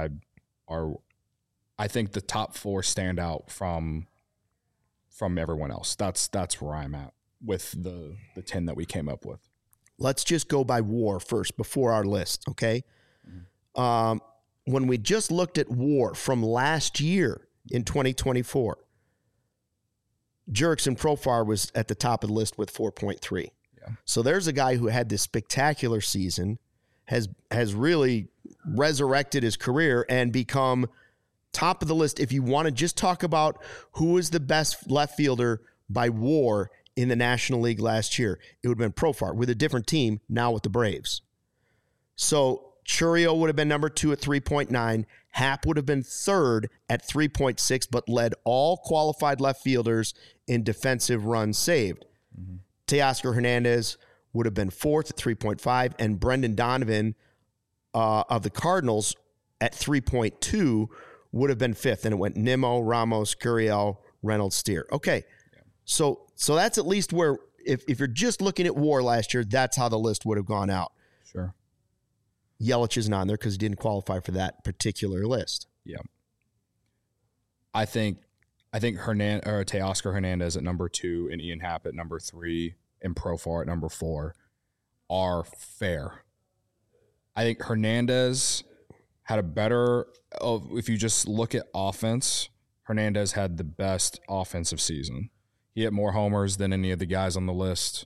I think the top 4 stand out from everyone else. That's where I'm at with the 10 that we came up with. Let's just go by WAR first before our list, okay? Mm-hmm. When we just looked at WAR from last year in 2024, Jurickson Profar was at the top of the list with 4.3. Yeah. So there's a guy who had this spectacular season, has really resurrected his career and become top of the list. If you want to just talk about who is the best left fielder by WAR in the National League last year, it would have been Profar with a different team, now with the Braves. So Chourio would have been number 2 at 3.9. Happ would have been 3rd at 3.6, but led all qualified left fielders in defensive runs saved. Mm-hmm. Teoscar Hernandez would have been 4th at 3.5, and Brendan Donovan of the Cardinals at 3.2 would have been 5th, and it went Nimmo, Ramos, Gurriel, Reynolds, Steer. Okay, yeah. So that's at least where, if you're just looking at WAR last year, that's how the list would have gone out. Sure. Yelich isn't on there because he didn't qualify for that particular list. Yeah. I think Teoscar Hernandez at number 2 and Ian Happ at number 3 and Profar at number 4 are fair. I think Hernandez had a better, if you just look at offense, Hernandez had the best offensive season. He hit more homers than any of the guys on the list.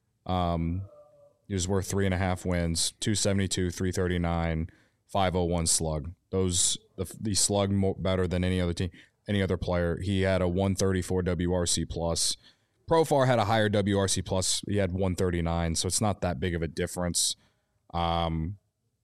He was worth 3.5 wins, 272, 339, 501 slug. The slug more better than any other team, any other player. He had a 134 WRC plus. Profar had a higher WRC plus. He had 139, so it's not that big of a difference. Hernandez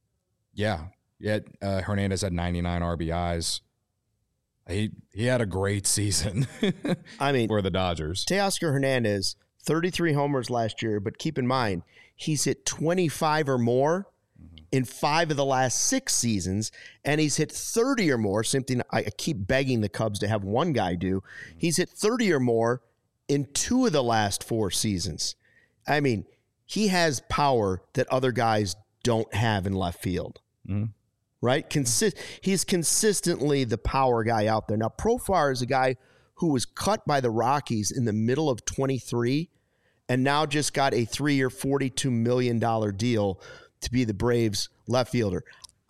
had 99 RBIs. He had a great season. I mean, for the Dodgers. Teoscar Hernandez, 33 homers last year, but keep in mind, he's hit 25 or more in 5 of the last 6 seasons, and he's hit 30 or more, something I keep begging the Cubs to have one guy do. He's hit 30 or more in 2 of the last 4 seasons. I mean, he has power that other guys don't have in left field, right? He's consistently the power guy out there. Now, Profar is a guy who was cut by the Rockies in the middle of 23 and now just got a 3-year, $42 million deal to be the Braves left fielder.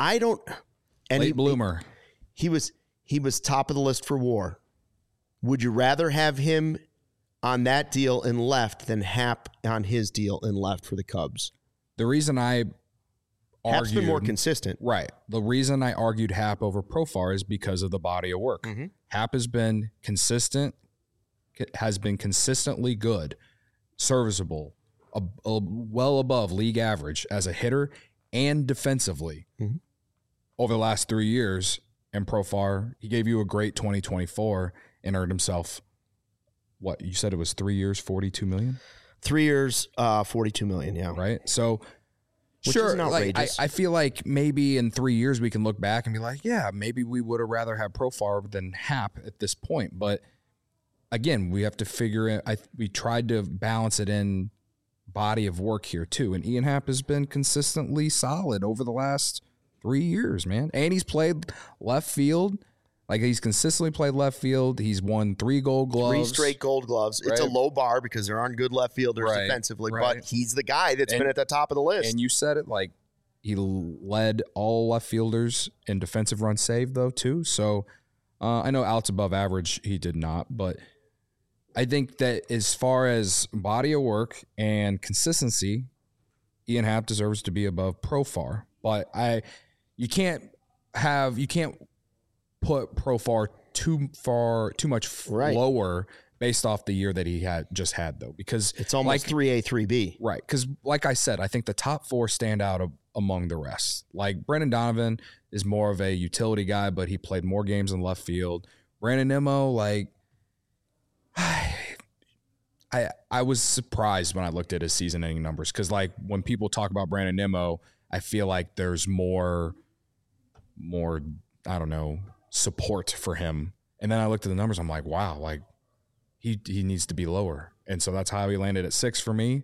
Late bloomer. He was top of the list for WAR. Would you rather have him on that deal in left than Happ on his deal in left for the Cubs? The reason I Happ's been more consistent. Right. The reason I argued Happ over Profar is because of the body of work. Mm-hmm. Happ has been consistent, has been consistently good, serviceable, well above league average as a hitter and defensively over the last 3 years. And Profar, he gave you a great 2024 and earned himself, what, you said it was 3 years, $42 million? 3 years, $42 million, yeah. Right? So, which sure, isn't outrageous. I feel like maybe in 3 years we can look back and be like, yeah, maybe we would have rather had Profar than Happ at this point. But again, we have to figure it. We tried to balance it in body of work here too. And Ian Happ has been consistently solid over the last 3 years, man. And he's played left field. Like, he's consistently played left field. He's won 3 Gold Gloves. 3 straight Gold Gloves. Right. It's a low bar because there aren't good left fielders defensively, but he's the guy that's been at the top of the list. And you said it, like, he led all left fielders in defensive runs saved, though, too. So I know Alex above average, he did not. But I think that as far as body of work and consistency, Ian Happ deserves to be above Profar. But you can't put Profar too much lower based off the year that he just had though, because it's almost 3A, 3B. Right. Because like I said, I think the top four stand out among the rest. Like Brendan Donovan is more of a utility guy, but he played more games in left field. Brandon Nimmo, like I was surprised when I looked at his season-ending numbers because, like, when people talk about Brandon Nimmo, I feel like there's more I don't know, support for him. And then I looked at the numbers, I'm like, wow, like he needs to be lower. And so that's how he landed at 6 for me.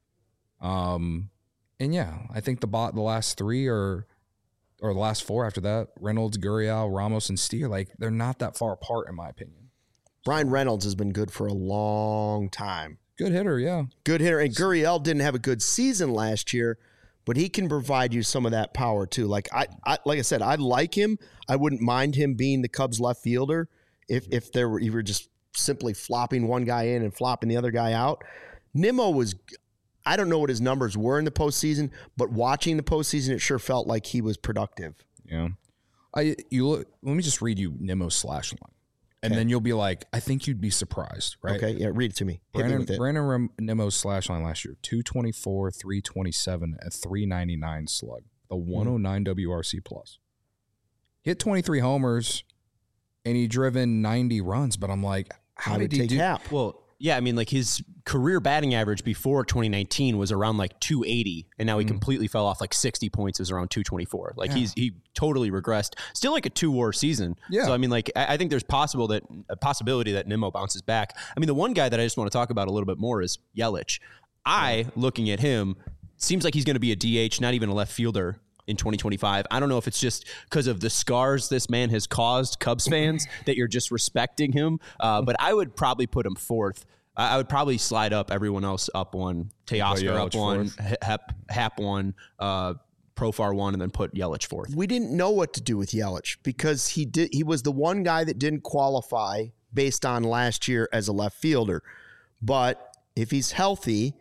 And yeah, I think the last 3 or the last 4 after that, Reynolds, Gurriel, Ramos, and Steer, like they're not that far apart in my opinion. Brian Reynolds has been good for a long time. Good hitter, yeah. Good hitter. And Gurriel didn't have a good season last year, but he can provide you some of that power too. Like I said, I like him. I wouldn't mind him being the Cubs left fielder if you were just simply flopping one guy in and flopping the other guy out. Nimmo was, I don't know what his numbers were in the postseason, but watching the postseason, it sure felt like he was productive. Yeah. Let me just read you Nimmo's slash line. And then you'll be like, I think you'd be surprised, right? Okay, yeah, read it to me. Brandon Nimmo's slash line last year, 224, 327, and 399 slug, the 109 WRC plus. He hit 23 homers, and he driven 90 runs, but I'm like, how did he do Happ? Well, yeah, I mean, like his career batting average before 2019 was around like 280, and now he completely fell off. Like 60 points is around 224. Like he totally regressed. Still like a 2-WAR season. Yeah. So I mean, like I think there's a possibility that Nimmo bounces back. I mean, the one guy that I just want to talk about a little bit more is Yelich. Looking at him, seems like he's going to be a DH, not even a left fielder in 2025. I don't know if it's just because of the scars this man has caused Cubs fans that you're just respecting him. But I would probably put him 4th. I would probably slide up everyone else up 1, Teoscar up 1, Happ 1, Profar 1, and then put Yelich 4th. We didn't know what to do with Yelich because he was the one guy that didn't qualify based on last year as a left fielder. But if he's healthy,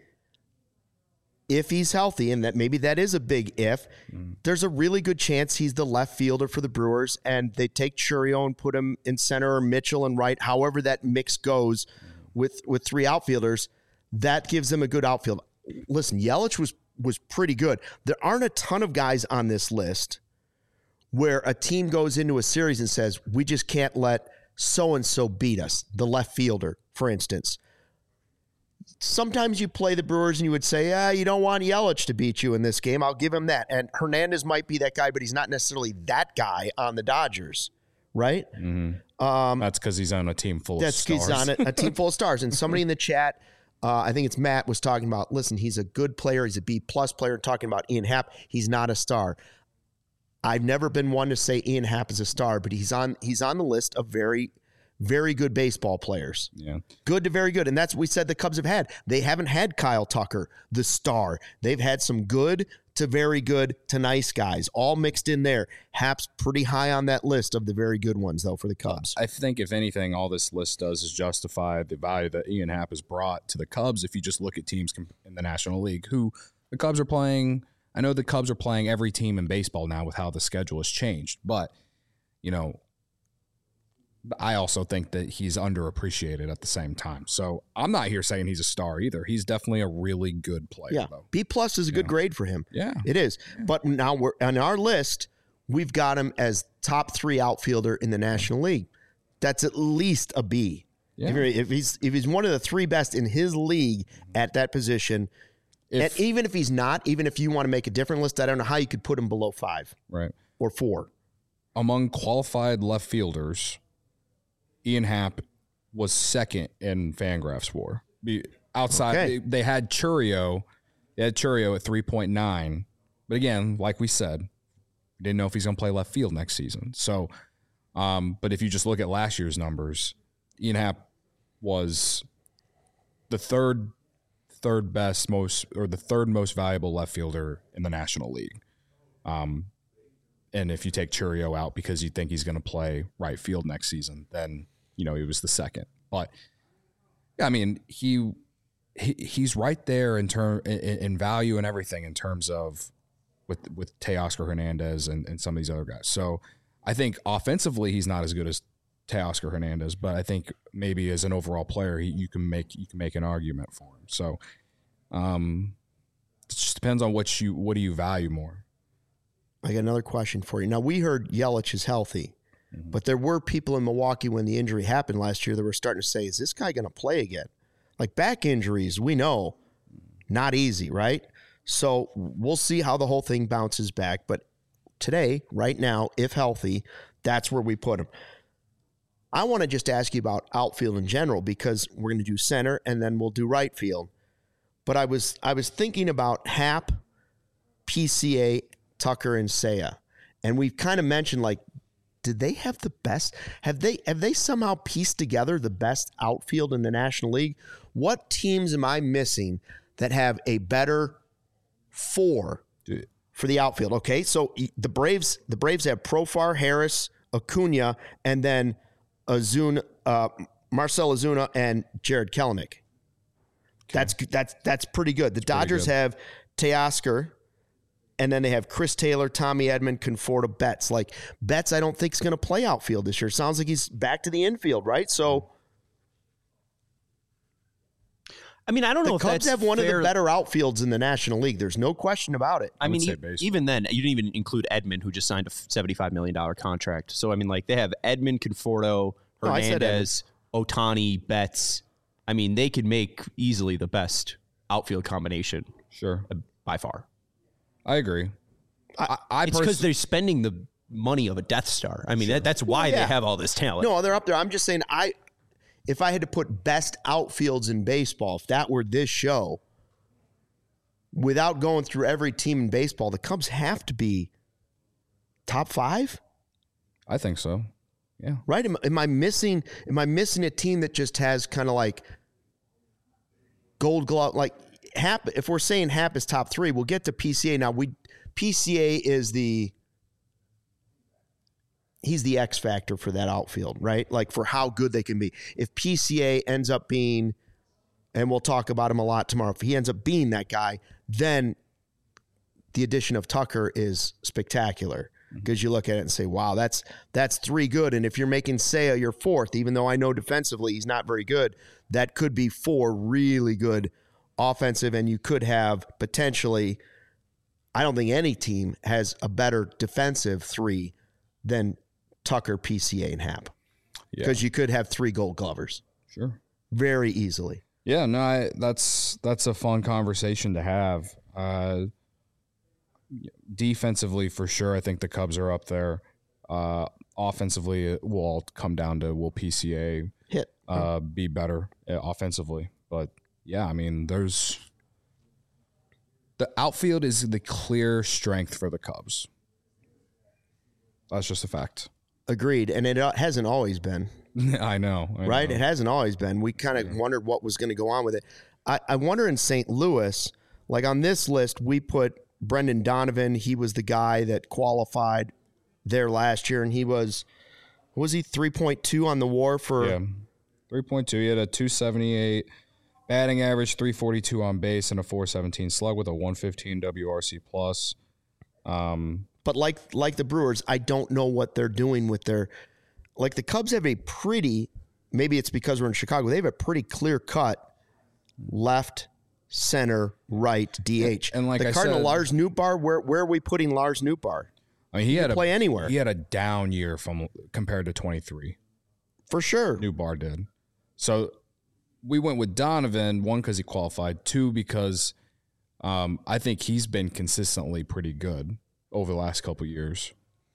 and that maybe that is a big if, there's a really good chance he's the left fielder for the Brewers, and they take Chourio and put him in center, or Mitchell and right, however that mix goes with 3 outfielders. That gives them a good outfield. Listen, Yelich was pretty good. There aren't a ton of guys on this list where a team goes into a series and says, we just can't let so-and-so beat us, the left fielder, for instance. Sometimes you play the Brewers and you would say, you don't want Yelich to beat you in this game. I'll give him that. And Hernandez might be that guy, but he's not necessarily that guy on the Dodgers, right? Mm-hmm. That's because he's on a team full of stars. He's on a team full of stars. And somebody in the chat, I think it's Matt, was talking about, listen, he's a good player. He's a B-plus player. Talking about Ian Happ. He's not a star. I've never been one to say Ian Happ is a star, but he's on the list of very, very good baseball players. Yeah. Good to very good. And that's what we said the Cubs have had. They haven't had Kyle Tucker, the star. They've had some good to very good to nice guys, all mixed in there. Happ's pretty high on that list of the very good ones, though, for the Cubs. I think, if anything, all this list does is justify the value that Ian Happ has brought to the Cubs. If you just look at teams in the National League, who the Cubs are playing, I know the Cubs are playing every team in baseball now with how the schedule has changed, but, you know, I also think that he's underappreciated at the same time. So I'm not here saying he's a star either. He's definitely a really good player, though. B+ is a good grade for him. Yeah. It is. Yeah. But now we're on our list, we've got him as top 3 outfielder in the National League. That's at least a B. Yeah. If he's one of the 3 best in his league at that position, and even if he's not, even if you want to make a different list, I don't know how you could put him below 5. Right. Or 4. Among qualified left fielders, Ian Happ was 2nd in Fangraphs WAR. Outside, they had Chourio. They had Chourio at 3.9. But again, like we said, we didn't know if he's going to play left field next season. So, but if you just look at last year's numbers, Ian Happ was the third most valuable left fielder in the National League. And if you take Chourio out because you think he's going to play right field next season, then, you know, he was the 2nd. But I mean, he's right there in value and everything in terms of with Teoscar Hernandez and some of these other guys. So I think offensively he's not as good as Teoscar Hernandez, but I think maybe as an overall player you can make an argument for him. So it just depends on what do you value more. I got another question for you. Now, we heard Yelich is healthy, but there were people in Milwaukee when the injury happened last year that were starting to say, is this guy going to play again? Like back injuries, we know, not easy, right? So we'll see how the whole thing bounces back. But today, right now, if healthy, that's where we put him. I want to just ask you about outfield in general because we're going to do center and then we'll do right field. But I was thinking about Happ, PCA, Tucker, and Seiya. And we've kind of mentioned, like, did they have the best? Have they somehow pieced together the best outfield in the National League? What teams am I missing that have a better 4 for the outfield? Okay, so the Braves have Profar, Harris, Acuna, and then Marcell Ozuna and Jared Kelenic. That's pretty good. The Dodgers have Teoscar, and then they have Chris Taylor, Tommy Edman, Conforto, Betts. Like, Betts, I don't think is going to play outfield this year. Sounds like he's back to the infield, right? So, I mean, I don't know if the Cubs have one of the better outfields in the National League. There's no question about it. I mean, even then, you didn't even include Edman, who just signed a $75 million contract. So, I mean, like, they have Edman, Conforto, Hernandez, Ohtani, Betts. I mean, they could make easily the best outfield combination. Sure. By far. I agree. It's because they're spending the money of a Death Star. I mean, that's why they have all this talent. No, they're up there. I'm just saying, if I had to put best outfields in baseball, if that were this show, without going through every team in baseball, the Cubs have to be top 5? I think so. Yeah. Right? Am I missing a team that just has kind of like Gold Glove, like Happ? If we're saying Happ is top 3, we'll get to PCA. Now PCA is he's the X factor for that outfield, right? Like for how good they can be. If PCA ends up being, and we'll talk about him a lot tomorrow, if he ends up being that guy, then the addition of Tucker is spectacular. Because you look at it and say, wow, that's 3 good. And if you're making Seiya your 4th, even though I know defensively he's not very good, that could be 4 really good offensive. And you could have potentially, I don't think any team has a better defensive 3 than Tucker, PCA, and Happ. Because you could have 3 Gold Glovers. Sure. Very easily. Yeah, no, that's a fun conversation to have. Defensively, for sure, I think the Cubs are up there. Offensively, it will all come down to will PCA be better offensively. But, yeah, I mean, the outfield is the clear strength for the Cubs. That's just a fact. Agreed. And it hasn't always been. I know. Right? It hasn't always been. We kind of wondered what was going to go on with it. I wonder in St. Louis, like on this list, we put Brendan Donovan. He was the guy that qualified there last year, and he was 3.2 on the WAR for 3.2. He had a 278 batting average, 342 on base, and a 417 slug with a 115 WRC plus. But like the Brewers, I don't know what they're doing with their, like the Cubs have a pretty, maybe it's because we're in Chicago, they have a pretty clear cut left, center, right, DH. And like the Cardinal, Lars Nootbaar, where are we putting Lars Nootbaar? I mean, he had play anywhere. He had a down year compared to 23. For sure. Nootbaar did. So we went with Donovan, 1, because he qualified, 2, because I think he's been consistently pretty good over the last couple of years.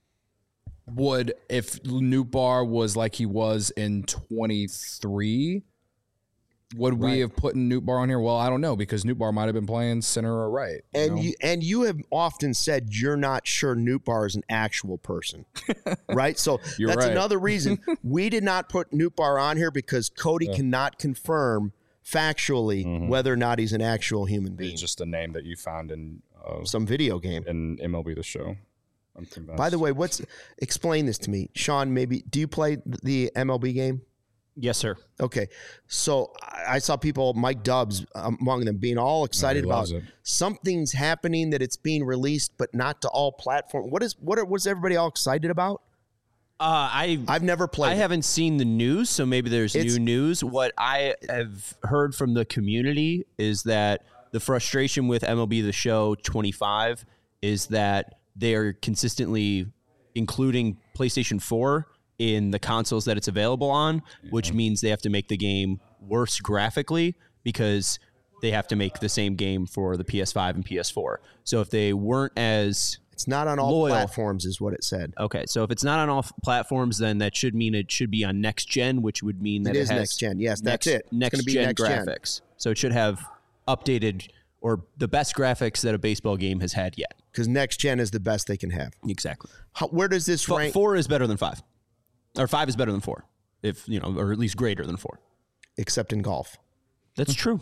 If Nootbaar was like he was in 23, would we have put Nootbaar on here? Well, I don't know, because Nootbaar might have been playing center or right. And you have often said you're not sure Nootbaar is an actual person, right? So that's right. Another reason we did not put Nootbaar on here, because Cody cannot confirm factually whether or not he's an actual human being. It's just a name that you found in some video game in MLB The Show. I'm convinced. By the way, explain this to me, Sean? Maybe do you play the MLB game? Yes, sir. Okay. So I saw people, Mike Dubs among them, being all excited about something's happening, that it's being released, but not to all platforms. What's everybody all excited about? I've never played. I haven't seen the news, so maybe there's new news. What I have heard from the community is that the frustration with MLB The Show 25 is that they're consistently including PlayStation 4 in the consoles that it's available on, which means they have to make the game worse graphically because they have to make the same game for the PS5 and PS4. So if they weren't as It's not on all platforms is what it said. Okay, so if it's not on all platforms, then that should mean it should be on next gen, which would mean that it is has next gen. Yes, that's it. Next gen graphics. So it should have updated or the best graphics that a baseball game has had yet. Because next gen is the best they can have. Exactly. Where does this rank? 4 is better than 5. Or 5 is better than 4, if you know, or at least greater than 4. Except in golf. That's true.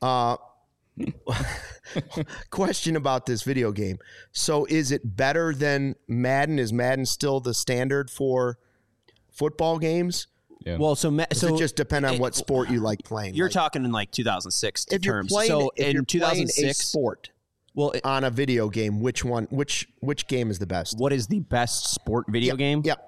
Question about this video game. So is it better than Madden? Is Madden still the standard for football games? Yeah. Well, so Does it just depend on what sport you like playing? You're talking in like 2006 if you're terms. playing, So if in you're 2006, playing a sport on a video game, which game is the best? what is the best sport video game? Yep.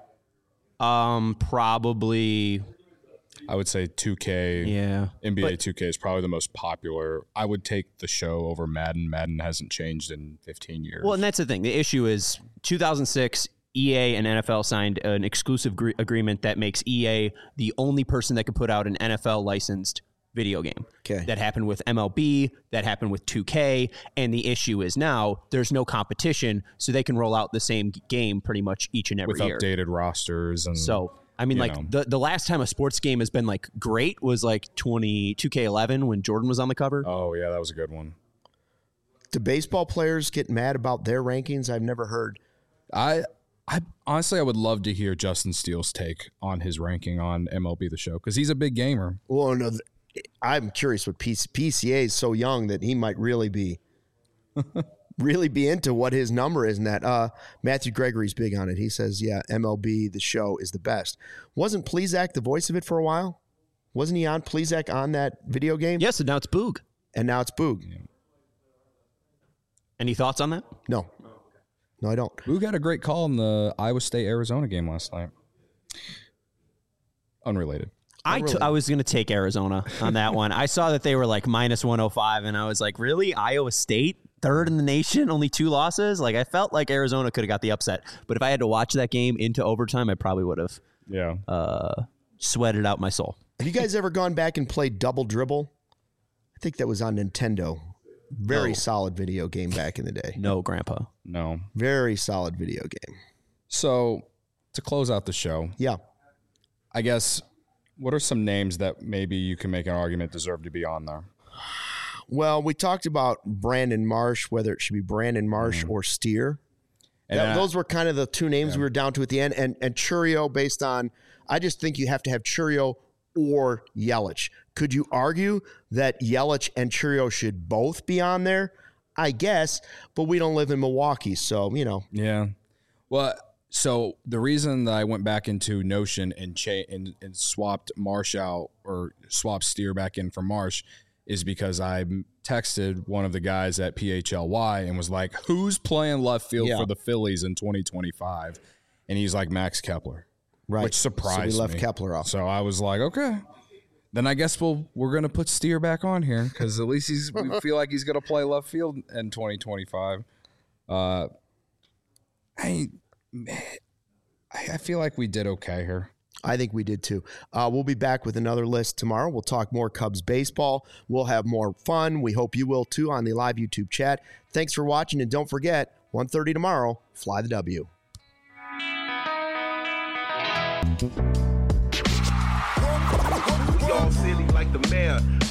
Probably. I would say 2K. Yeah. NBA 2K is probably the most popular. I would take The Show over Madden. Madden hasn't changed in 15 years. Well, and that's the thing. The issue is 2006, EA and NFL signed an exclusive agreement that makes EA the only person that could put out an NFL licensed video game. Okay. That happened with MLB, that happened with 2K, and the issue is now there's no competition, so they can roll out the same game pretty much each and every with year. updated rosters and So, I mean, like the last time a sports game has been like great was like 2K11 when Jordan was on the cover. Oh yeah, that was a good one. Do baseball players get mad about their rankings? I've never heard. I honestly, I would love to hear Justin Steele's take on his ranking on MLB The Show because he's a big gamer. Well, no, I'm curious what PCA is so young that he might really be into what his number is in that. Matthew Gregory's big on it. He says, yeah, MLB The Show is the best. Wasn't Plesac the voice of it for a while? Wasn't he on Plesac on that video game? Yes, and now it's Boog. And now it's Boog. Yeah. Any thoughts on that? No, I don't. Boog had a great call in the Iowa State-Arizona game last night. Unrelated. I was going to take Arizona on that one. I saw that they were like minus 105, and I was like, really? Iowa State? Third in the nation? Only 2 losses? Like, I felt like Arizona could have got the upset. But if I had to watch that game into overtime, I probably would have sweated out my soul. Have you guys ever gone back and played Double Dribble? I think that was on Nintendo. Very solid video game back in the day. No, Grandpa. No. Very solid video game. So, to close out the show, yeah, I guess, what are some names that maybe you can make an argument deserve to be on there? Well, we talked about Brandon Marsh, whether it should be Brandon Marsh or Steer. And those were kind of the 2 names we were down to at the end. And Chourio, based on, I just think you have to have Chourio or Yelich. Could you argue that Yelich and Chourio should both be on there? I guess, but we don't live in Milwaukee, so, you know. Yeah. Well, so the reason that I went back into Notion and swapped Marsh out or swapped Steer back in for Marsh is because I texted one of the guys at PHLY and was like, who's playing left field for the Phillies in 2025? And he's like, Max Kepler. Right. Which surprised me. So we left Kepler off. So I was like, okay. Then I guess we're going to put Steer back on here because at least we feel like he's going to play left field in 2025. I feel like we did okay here. I think we did too. We'll be back with another list tomorrow. We'll talk more Cubs baseball. We'll have more fun. We hope you will too on the live YouTube chat. Thanks for watching, and don't forget, 1:30 tomorrow, Fly the W. We all silly like the mayor.